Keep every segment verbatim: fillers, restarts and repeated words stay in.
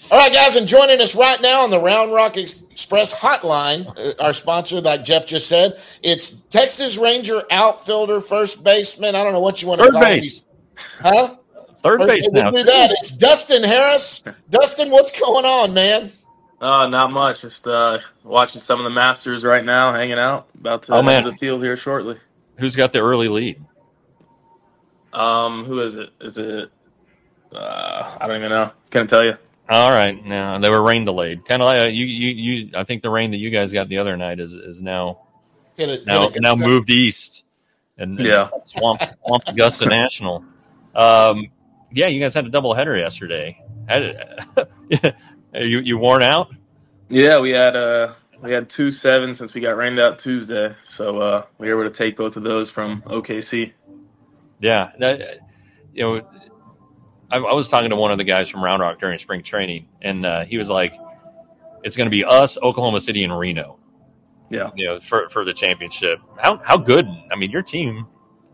All right, guys, and joining us right now on the Round Rock Express hotline, uh, our sponsor, like Jeff just said, it's Texas Ranger outfielder, first baseman. I don't know what you want to Third call base. him. Huh? Third First, base now. do that. It's Dustin Harris. Dustin, what's going on, man? Uh, not much. Just uh, watching some of the Masters right now, hanging out. About to Oh, head man. to the field here shortly. Who's got the early lead? Um, who is it? Is it? Uh, I don't even know. Couldn't tell you. All right, now they were rain delayed. Kind of like uh, you, you, you. I think the rain that you guys got the other night is is now Hit it, now hit it, now Augusta. moved east and, and Yeah. swamp swamp Augusta National. Um, yeah, you guys had a doubleheader yesterday. Had it, you you worn out? Yeah, we had uh, we had two seven since we got rained out Tuesday, so uh, we were able to take both of those from O K C. Yeah, that, you know. I, I was talking to one of the guys from Round Rock during spring training, and uh, he was like, "It's going to be us, Oklahoma City, and Reno." Yeah, you know, for for the championship. How how good? I mean, your team,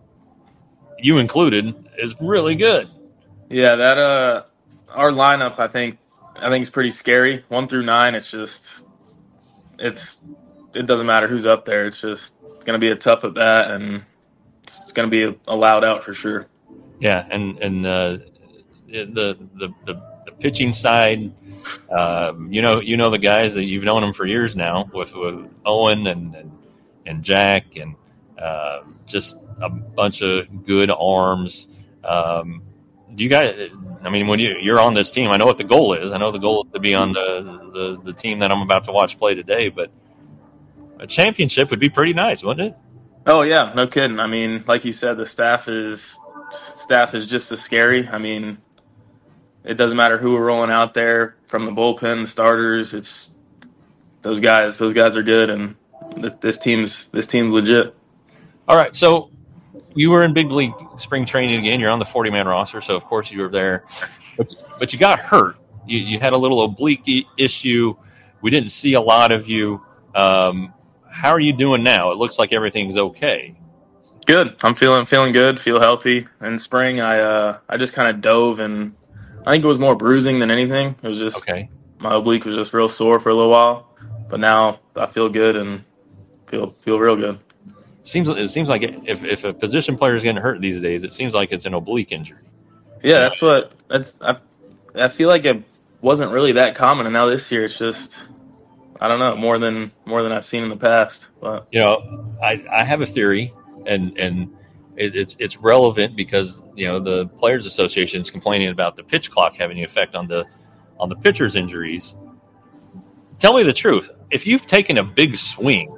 you included, is really good. yeah. That uh, our lineup, I think, I think is pretty scary. One through nine, it's just, it's, it doesn't matter who's up there. It's just going to be a tough at bat, and it's going to be a, a loud out for sure. Yeah, and and uh, the, the the the pitching side, um, you know, you know the guys that you've known them for years now with, with Owen and, and and Jack and uh, just a bunch of good arms. Um, do you guys? I mean, when you you're on this team, I know what the goal is. I know the goal is to be on the the, the team that I'm about to watch play today. But a championship would be pretty nice, wouldn't it? Oh yeah, no kidding. I mean, like you said, the staff is staff is just as scary. I mean, it doesn't matter who we're rolling out there from the bullpen, the starters. It's those guys. Those guys are good, and th- this team's this team's legit. All right, so you were in big league spring training again. You're on the forty man roster, so of course you were there. But, but you got hurt. You, you had a little oblique i- issue. We didn't see a lot of you. Um, how are you doing now? It looks like everything's okay. Good. I'm feeling feeling good. Feel healthy. In spring, I uh, I just kind of dove, and I think it was more bruising than anything. It was just Okay. my oblique was just real sore for a little while, but now I feel good and feel feel real good. Seems it seems like if if a position player is getting hurt these days, it seems like it's an oblique injury. Yeah, that's what that's. I I feel like it wasn't really that common, and now this year it's just I don't know more than more than I've seen in the past. But You know, I, I have a theory, and and it, it's it's relevant because you know the Players Association is complaining about the pitch clock having an effect on the on the pitchers' injuries. Tell me the truth. If you've taken a big swing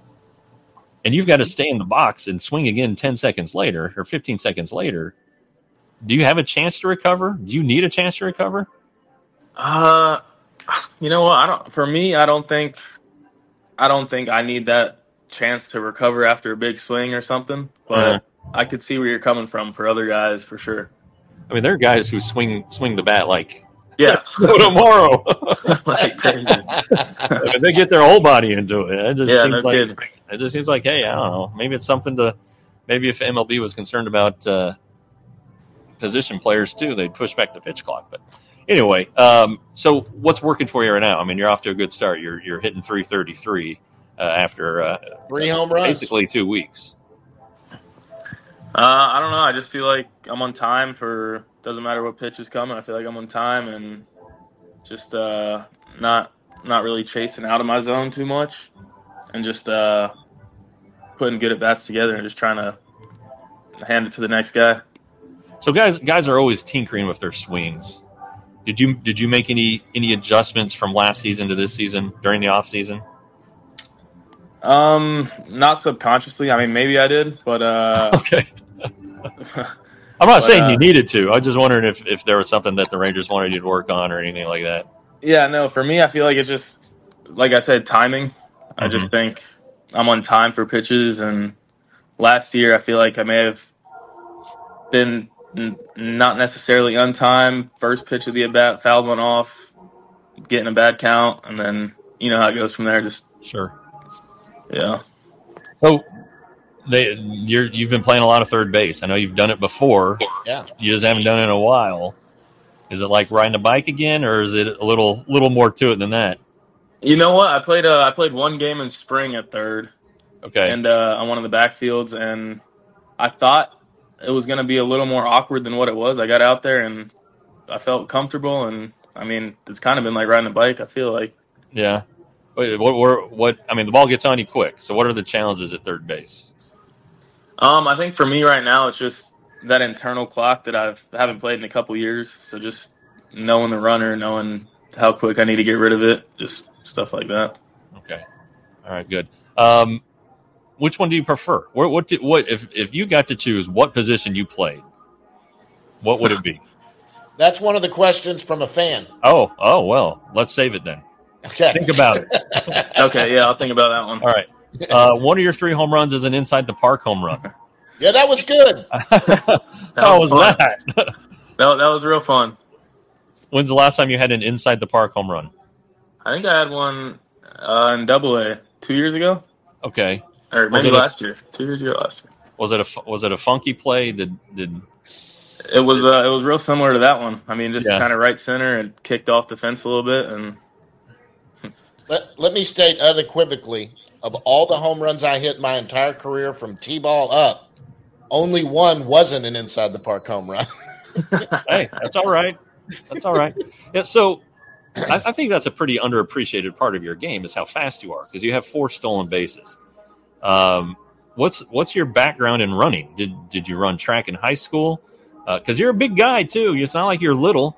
and you've got to stay in the box and swing again ten seconds later or fifteen seconds later, do you have a chance to recover? Do you need a chance to recover? uh, you know what? I don't. For me, I don't think I don't think I need that chance to recover after a big swing or something. But Uh, I could see where you're coming from for other guys for sure. I mean, there are guys who swing swing the bat like Yeah, tomorrow. like crazy. I mean, they get their whole body into it. It just Yeah, seems no like kidding. it just seems like, hey, I don't know. Maybe it's something to. Maybe if M L B was concerned about uh, position players too, they'd push back the pitch clock. But anyway, um, so what's working for you right now? I mean, you're off to a good start. You're you're hitting three thirty-three uh, after uh, Three home runs. basically two weeks. Uh, I don't know. I just feel like I'm on time for. Doesn't matter what pitch is coming. I feel like I'm on time and just uh, not not really chasing out of my zone too much, and just uh, putting good at bats together and just trying to hand it to the next guy. So guys guys are always tinkering with their swings. Did you did you make any any adjustments from last season to this season during the off season? Um, not subconsciously. I mean, maybe I did, but uh, Okay. I'm not But, saying uh, you needed to. I was just wondering if, if there was something that the Rangers wanted you to work on or anything like that. yeah, no. For me, I feel like it's just like I said, timing. I just think I'm on time for pitches, and last year I feel like I may have been n- not necessarily on time. First pitch of the at bat, fouled one off, getting a bad count, and then you know how it goes from there. Just Sure. yeah, So they you're you've been playing a lot of third base. I know you've done it before. Yeah. You just haven't done it in a while. Is it like riding a bike again, or is it a little little more to it than that? You know what? I played uh, I played one game in spring at third, Okay. and uh, on one of the backfields, and I thought it was going to be a little more awkward than what it was. I got out there and I felt comfortable, and I mean, it's kind of been like riding a bike. I feel like. Yeah. Wait, what, what, what? I mean, the ball gets on you quick. So, what are the challenges at third base? Um, I think for me right now, it's just that internal clock that I've haven't played in a couple years. So just knowing the runner, knowing how quick I need to get rid of it, just stuff like that. Okay. All right. Good. Um, which one do you prefer? What? What? Did, what? If if you got to choose, what position you played, what would it be? That's one of the questions from a fan. Oh. Oh. Well, let's save it then. Okay. Think about it. Okay. Yeah, I'll think about that one. All right. Uh, one of your three home runs is an inside the park home run. Yeah, that was good. How was, was that? that? That was real fun. When's the last time you had an inside the park home run? I think I had one uh, in Double A two years ago. Okay. Or maybe last a, year. Two years ago last year. Was it a was it a funky play? Did did it was uh, it was real similar to that one. I mean, just yeah. kind of right center and kicked off the fence a little bit. And let let me state unequivocally, of all the home runs I hit my entire career from T-ball up, only one wasn't an inside the park home run. Hey, that's all right. That's all right. Yeah, so I, I think that's a pretty underappreciated part of your game is how fast you are because you have four stolen bases. Um, what's what's your background in running? Did did you run track in high school? Because uh, you're a big guy too. It's not like you're little.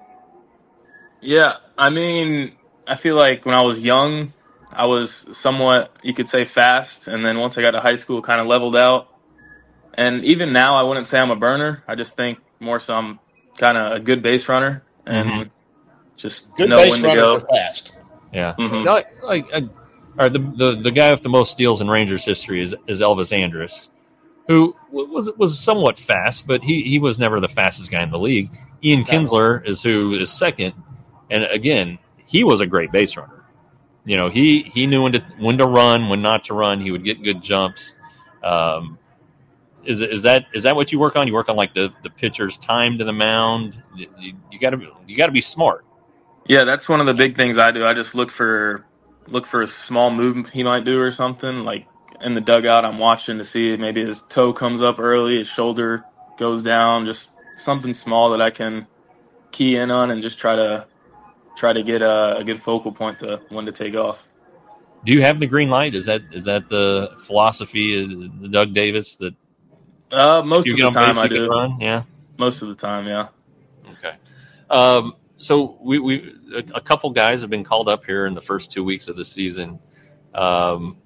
Yeah, I mean, I feel like when I was young, I was somewhat, you could say, fast, and then once I got to high school, kind of leveled out. And even now, I wouldn't say I'm a burner. I just think more so I'm kind of a good base runner and mm-hmm. just good know base when to runner go. For fast. Yeah. Mm-hmm. Like, like, uh, all right, the, the the guy with the most steals in Rangers history is, is Elvis Andrus, who was was somewhat fast, but he, he was never the fastest guy in the league. Ian Kinsler is who is second, and again, he was a great base runner. You know, he, he knew when to when to run, when not to run. He would get good jumps. Um, Is is that is that what you work on? You work on like the, the pitcher's time to the mound. You, you got to you got to be smart. Yeah, that's one of the big things I do. I just look for look for a small movement he might do or something. Like in the dugout, I'm watching to see maybe his toe comes up early, his shoulder goes down, just something small that I can key in on and just try to try to get a, a good focal point to when to take off. Do you have the green light? Is that is that the philosophy of Doug Davis that? Uh, most of the time I do. Run? Yeah. Most of the time, yeah. Okay. Um, so we, we a, a couple guys have been called up here in the first two weeks of the season. Um,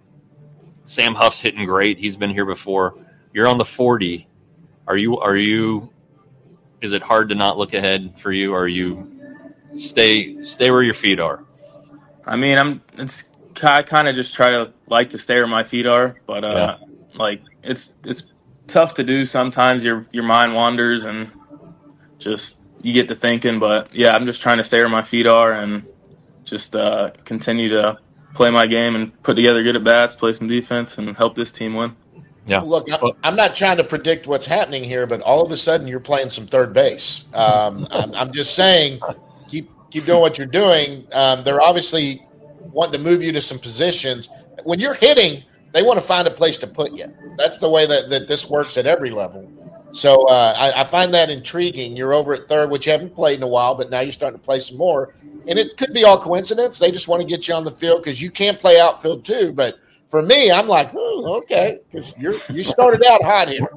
Sam Huff's hitting great. He's been here before. You're on the forty. Are you? Are you? Is it hard to not look ahead for you? Or are you stay stay where your feet are? I mean, I'm. It's I kind of just try to like to stay where my feet are, but uh, yeah. like it's it's. tough to do sometimes. Your your mind wanders and just you get to thinking, but yeah, I'm just trying to stay where my feet are and just uh, continue to play my game and put together good at bats, play some defense, and help this team win. Yeah. Look, I'm not trying to predict what's happening here, but all of a sudden you're playing some third base. Um, I'm, I'm just saying, keep keep doing what you're doing. Um, they're obviously wanting to move you to some positions. When you're hitting, they want to find a place to put you. That's the way that, that this works at every level. So uh, I, I find that intriguing. You're over at third, which you haven't played in a while, but now you're starting to play some more. And it could be all coincidence. They just want to get you on the field because you can play outfield too. But for me, I'm like, oh, okay, because you you started out hot here.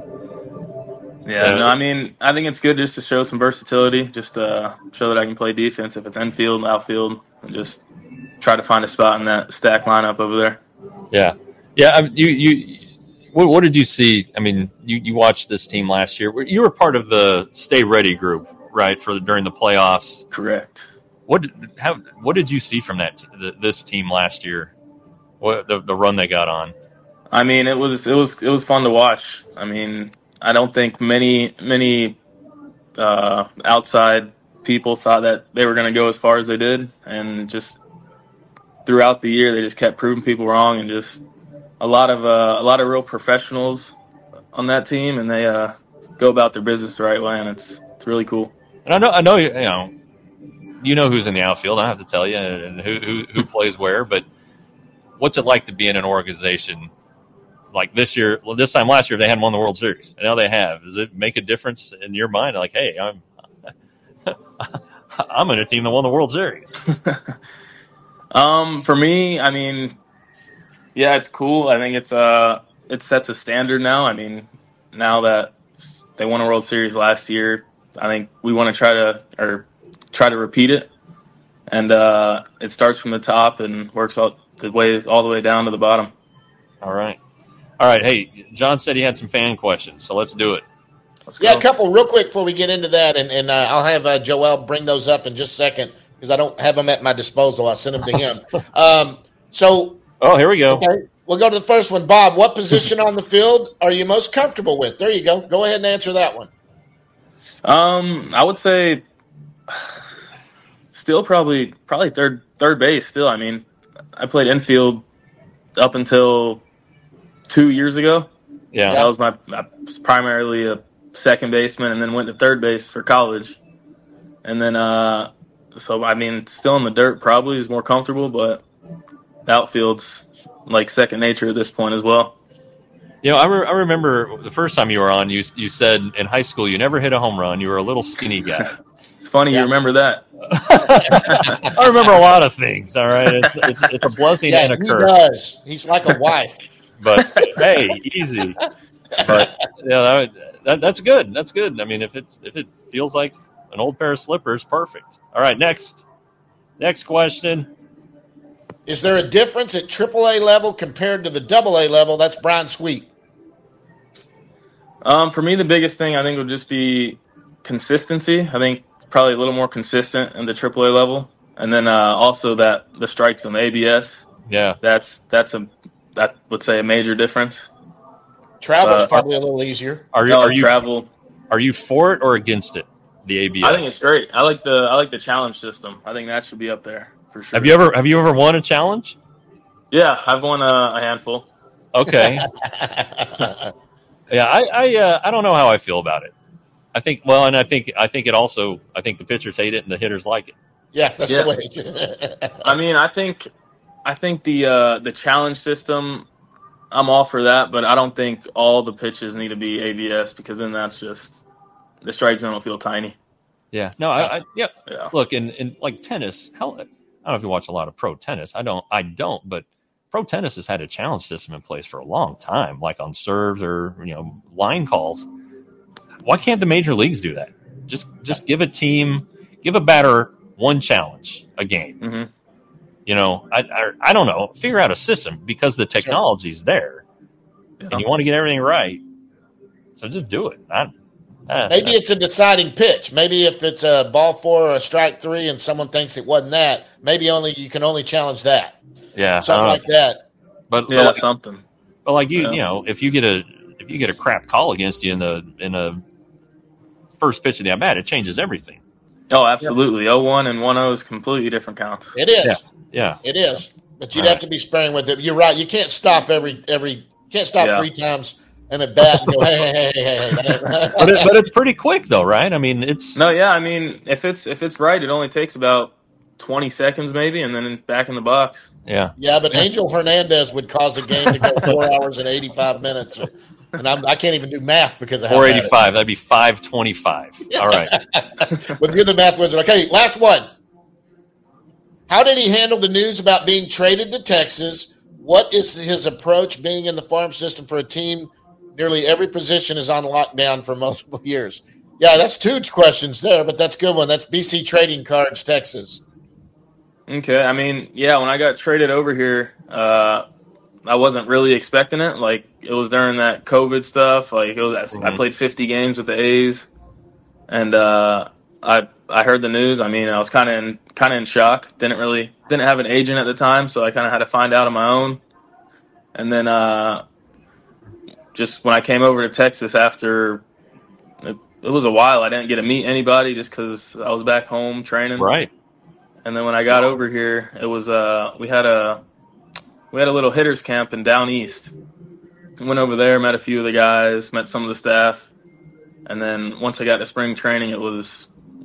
Yeah, no, I mean, I think it's good just to show some versatility, just uh, show that I can play defense if it's infield, outfield, and just try to find a spot in that stack lineup over there. Yeah. Yeah, I mean, you you what, what did you see? I mean, you, you watched this team last year. You were part of the Stay Ready group, right? For during the playoffs. Correct. What how what did you see from that the, this team last year? What the the run they got on? I mean, it was it was it was fun to watch. I mean, I don't think many many uh, outside people thought that they were going to go as far as they did, and just throughout the year, they just kept proving people wrong and just. A lot of uh, a lot of real professionals on that team, and they uh, go about their business the right way, and it's it's really cool. And I know, I know, you know, you know who's in the outfield. I don't have to tell you, and who who, who plays where. But what's it like to be in an organization like this year? Well, this time last year they hadn't won the World Series, and now they have. Does it make a difference in your mind? Like, hey, I'm I'm in a team that won the World Series. um, for me, I mean, yeah, it's cool. I think it's uh, it sets a standard now. I mean, now that they won a World Series last year, I think we want to try to or try to repeat it. And uh, it starts from the top and works all the way all the way down to the bottom. All right, all right. Hey, John said he had some fan questions, so let's do it. Let's Yeah, go. a couple real quick before we get into that, and, and uh, I'll have uh, Joel bring those up in just a second because I don't have them at my disposal. I'll send them to him. Um, so, Oh, here we go. okay, we'll go to the first one. Bob, what position on the field are you most comfortable with? There you go. Go ahead and answer that one. Um, I would say still probably probably third third base. Still, I mean, I played infield up until two years ago. Yeah. That was my I was primarily a second baseman, and then went to third base for college. And then, uh, so I mean, still in the dirt probably is more comfortable, but the outfield's like second nature at this point as well. You know, I, re- I remember the first time you were on, you you said in high school you never hit a home run. You were a little skinny guy. It's funny Yeah. you remember that. I remember a lot of things. All right, it's it's, it's a blessing Yes, and a he curse. does. He's like a wife. But hey, easy. But yeah, that, that, that's good. That's good. I mean, if it's if it feels like an old pair of slippers, perfect. All right, next next question. Is there a difference at triple A level compared to the double A level? That's Brian Sweet. Um, for me, the biggest thing I think would just be consistency. I think probably a little more consistent in the triple A level, and then uh, also that the strikes on the A B S. Yeah, That's that's a that would say a major difference. Travel's Uh, probably a little easier. are you No, are you travel? are you for it or against it? The A B S. I think it's great. I like the I like the challenge system. I think that should be up there for sure. Have you ever have you ever won a challenge? Yeah, I've won a, a handful. Okay. Yeah, I I, uh, I don't know how I feel about it. I think well, and I think I think it also I think the pitchers hate it and the hitters like it. Yeah, that's Yes. the way. I mean, I think I think the uh, the challenge system, I'm all for that, but I don't think all the pitches need to be A B S because then that's just the strike zone will feel tiny. Yeah. No, I, I yeah. Yeah. Look, in, in like tennis, how I don't know if you watch a lot of pro tennis. I don't. I don't. But pro tennis has had a challenge system in place for a long time, like on serves or you know line calls. Why can't the major leagues do that? Just just give a team, give a batter one challenge a game. hmm You know, I, I I don't know. Figure out a system because the technology's there, Yeah. and you want to get everything right. So just do it. I, I, Maybe it's a deciding pitch. Maybe if it's a ball four or a strike three and someone thinks it wasn't that, maybe only you can only challenge that. yeah, Something I like don't know. that. But, Yeah, but like, something. but like you, Yeah. you know, if you get a if you get a crap call against you in the in a first pitch of the at bat, it changes everything. Oh, absolutely. oh one and one oh is completely different counts. It is. Yeah, It is. But you'd Right. have to be sparing with it. You're right. You can't stop every every you can't stop Yeah. three times and at bat and go, hey, hey, hey, hey, hey. but it, but it's pretty quick though, right? I mean, it's No, yeah, I mean, if it's if it's right, it only takes about twenty seconds maybe, and then back in the box. yeah. Yeah, but Angel Hernandez would cause a game to go four hours and eighty-five minutes. And I'm, I can't even do math because of how Four bad it eighty five. That'd be five twenty five. All right. is. But you're the math wizard. Okay, last one. How did he handle the news about being traded to Texas? What is his approach being in the farm system for a team? Nearly every position is on lockdown for multiple years. Yeah, that's two questions there, but that's a good one. That's B C Trading Cards, Texas. Okay, I mean, yeah, when I got traded over here, uh, I wasn't really expecting it. Like it was during that COVID stuff. Like it was, I Mhm. played fifty games with the A's, and uh, I I heard the news. I mean, I was kind of in kind of in shock. Didn't really didn't have an agent at the time, so I kind of had to find out on my own. And then uh, just when I came over to Texas after, it, it was a while. I didn't get to meet anybody just because I was back home training. Right. And then when I got over here, it was uh we had a we had a little hitters camp in Down East. Went over there, met a few of the guys, met some of the staff, and then once I got to spring training, it was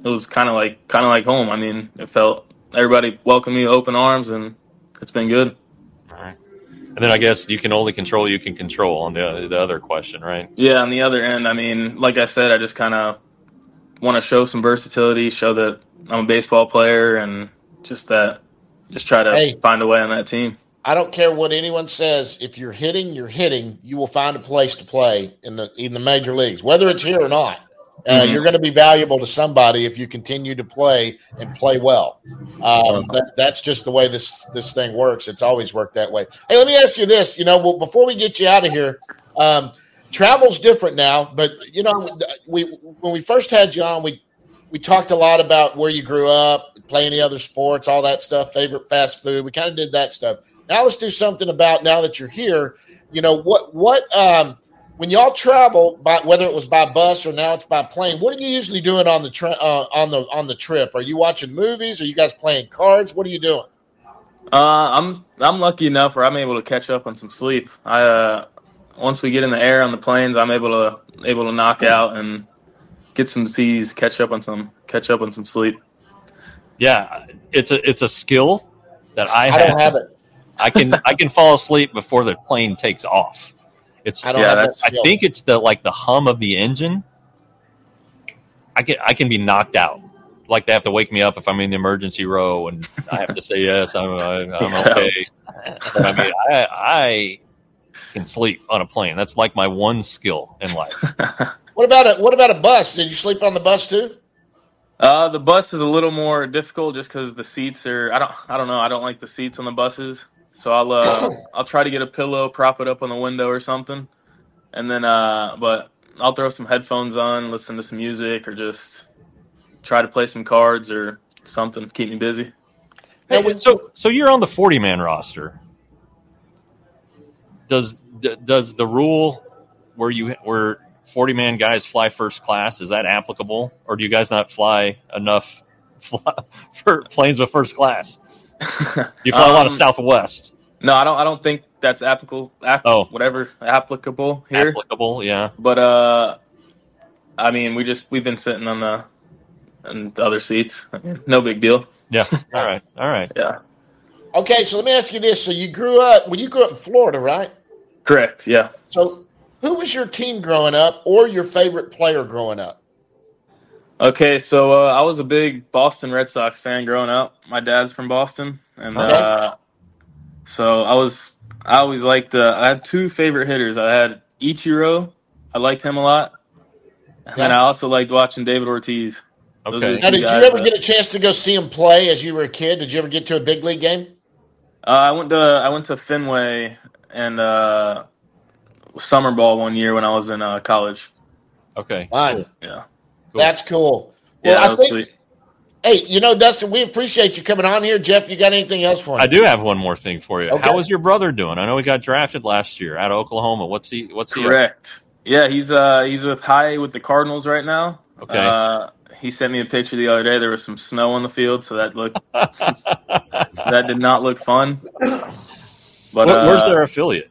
it was kind of like kind of like home. I mean, it felt everybody welcomed me with open arms, and it's been good. All right. And then I guess you can only control what you can control on the the other question, right? Yeah, on the other end, I mean, like I said, I just kind of want to show some versatility, show that I'm a baseball player, and just that, just try to Hey. find a way on that team. I don't care what anyone says. If you're hitting, you're hitting. You will find a place to play in the in the major leagues, whether it's here or not. Uh, Mhm. You're going to be valuable to somebody if you continue to play and play well. Um, that, that's just the way this this thing works. It's always worked that way. Hey, let me ask you this. You know, well, before we get you out of here, um, travel's different now. But you know, we when we first had you on, we we talked a lot about where you grew up, play any other sports, all that stuff. Favorite fast food. We kind of did that stuff. Now let's do something about now that you're here. You know what? What um, when y'all travel, by, whether it was by bus or now it's by plane, what are you usually doing on the tri- uh, on the on the trip? Are you watching movies? Are you guys playing cards? What are you doing? Uh, I'm I'm lucky enough where I'm able to catch up on some sleep. I uh, once we get in the air on the planes, I'm able to able to knock out and get some C's, catch up on some catch up on some sleep. Yeah, it's a it's a skill that I, I have. don't have it. I can I can fall asleep before the plane takes off. It's I don't Yeah, have that's- that I skill. think it's the like the hum of the engine. I can I can be knocked out. Like they have to wake me up if I'm in the emergency row, and I have to say yes, I'm I'm, I'm okay. But I mean, I I can sleep on a plane. That's like my one skill in life. What about a what about a bus? Did you sleep on the bus too? Uh, the bus is a little more difficult just because the seats are. I don't. I don't know. I don't like the seats on the buses, so I'll uh, I'll try to get a pillow, prop it up on the window or something, and then uh, but I'll throw some headphones on, listen to some music, or just try to play some cards or something, keep me busy. Hey, so so you're on the forty man roster. Does d- does the rule where you where forty man guys fly first class, is that applicable, or do you guys not fly enough fly, for planes with first class? You fly a lot of Um, Southwest. No, I don't. I don't think that's applicable. App, Oh. whatever applicable here. Applicable, yeah. But uh, I mean, we just we've been sitting on the on the other seats. I mean, no big deal. Yeah. All right. All right. Yeah, Okay, so let me ask you this. So you grew up well, you grew up in Florida, right? correct. Yeah. So who was your team growing up or your favorite player growing up? Okay, so uh, I was a big Boston Red Sox fan growing up. My dad's from Boston, and Okay. uh, so I was. I always liked. Uh, I had two favorite hitters. I had Ichiro. I liked him a lot, and then Okay. I also liked watching David Ortiz. Those Okay. are the Now, two did you guys ever that- get a chance to go see him play as you were a kid? Did you ever get to a big league game? Uh, I went to I went to Fenway and uh, summer ball one year when I was in uh, college. Okay. Fine. Yeah, Cool. That's cool. yeah, Well, that I was think, sweet. hey, you know, Dustin, we appreciate you coming on here. Jeff, you got anything else for I us? do have one more thing for you. Okay. How is your brother doing? I know he got drafted last year out of Oklahoma. What's he what's he up Correct. Yeah, he's uh he's with high with the Cardinals right now. Okay. Uh, he sent me a picture the other day. There was some snow on the field, so that looked that did not look fun. But Where- Where's uh, their affiliate?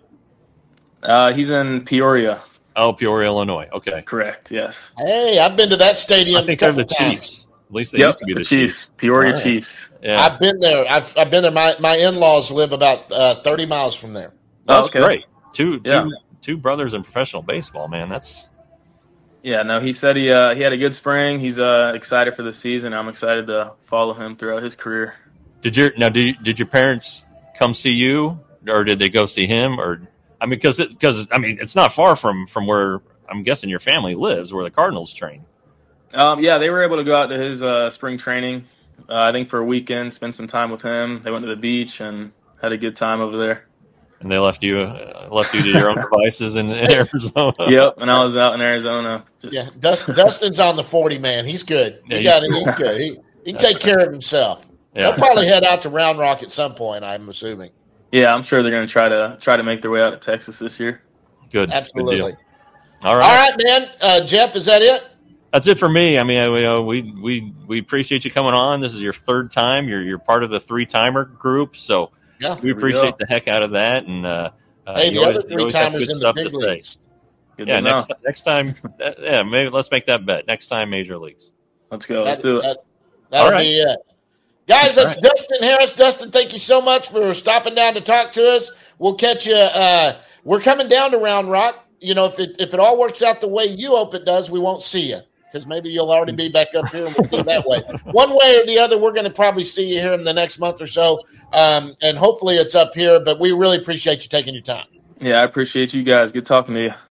uh, he's in Peoria. Oh, Peoria, Illinois. Okay. Correct. Yes. Hey, I've been to that stadium I think a they're couple the times. Chiefs. At least they Yep. used to be The the Chiefs. Peoria All right. Chiefs. Yeah. I've been there. I've, I've been there. My, my in-laws live about uh, thirty miles from there. That's Oh, okay. great. Two, two, Yeah. two brothers in professional baseball, man. That's Yeah, no, he said he uh, he had a good spring. He's uh, excited for the season. I'm excited to follow him throughout his career. did your now did did your parents come see you, or did they go see him, or I mean, because because I mean, it's not far from from where I'm guessing your family lives, where the Cardinals train. Um, yeah, they were able to go out to his uh, spring training. Uh, I think for a weekend, spend some time with him. They went to the beach and had a good time over there. And they left you uh, left you to your own devices in, in Arizona. Yep, and I was out in Arizona. Just, Yeah, Dust, Dustin's on the forty man. He's good. Yeah, He he's- got it. He's good. He he can take care of himself. He'll Yeah. probably head out to Round Rock at some point. I'm assuming. yeah, I'm sure they're going to try to try to make their way out to Texas this year. Good. Good Absolutely. deal. All right. All right, man. Uh, Jeff, is that it? That's it for me. I mean, I, we, uh, we we we appreciate you coming on. This is your third time. You're you're part of the three timer group, so Yeah. we we appreciate go. the heck out of that. And uh, uh, Hey, you the always- other you three always have timers good in the stuff big to say. leagues. Good Yeah, to know. next next time, uh, yeah, maybe let's make that bet. Next time, major leagues. Let's go. That, Let's do it. That, that'll All right. be it. Guys, that's right. Dustin Harris. Dustin, thank you so much for stopping down to talk to us. We'll catch you. Uh, we're coming down to Round Rock. You know, if it if it all works out the way you hope it does, we won't see you because maybe you'll already be back up here and we'll see you that way. One way or the other, we're going to probably see you here in the next month or so, um, and hopefully it's up here. But we really appreciate you taking your time. Yeah, I appreciate you guys. Good talking to you.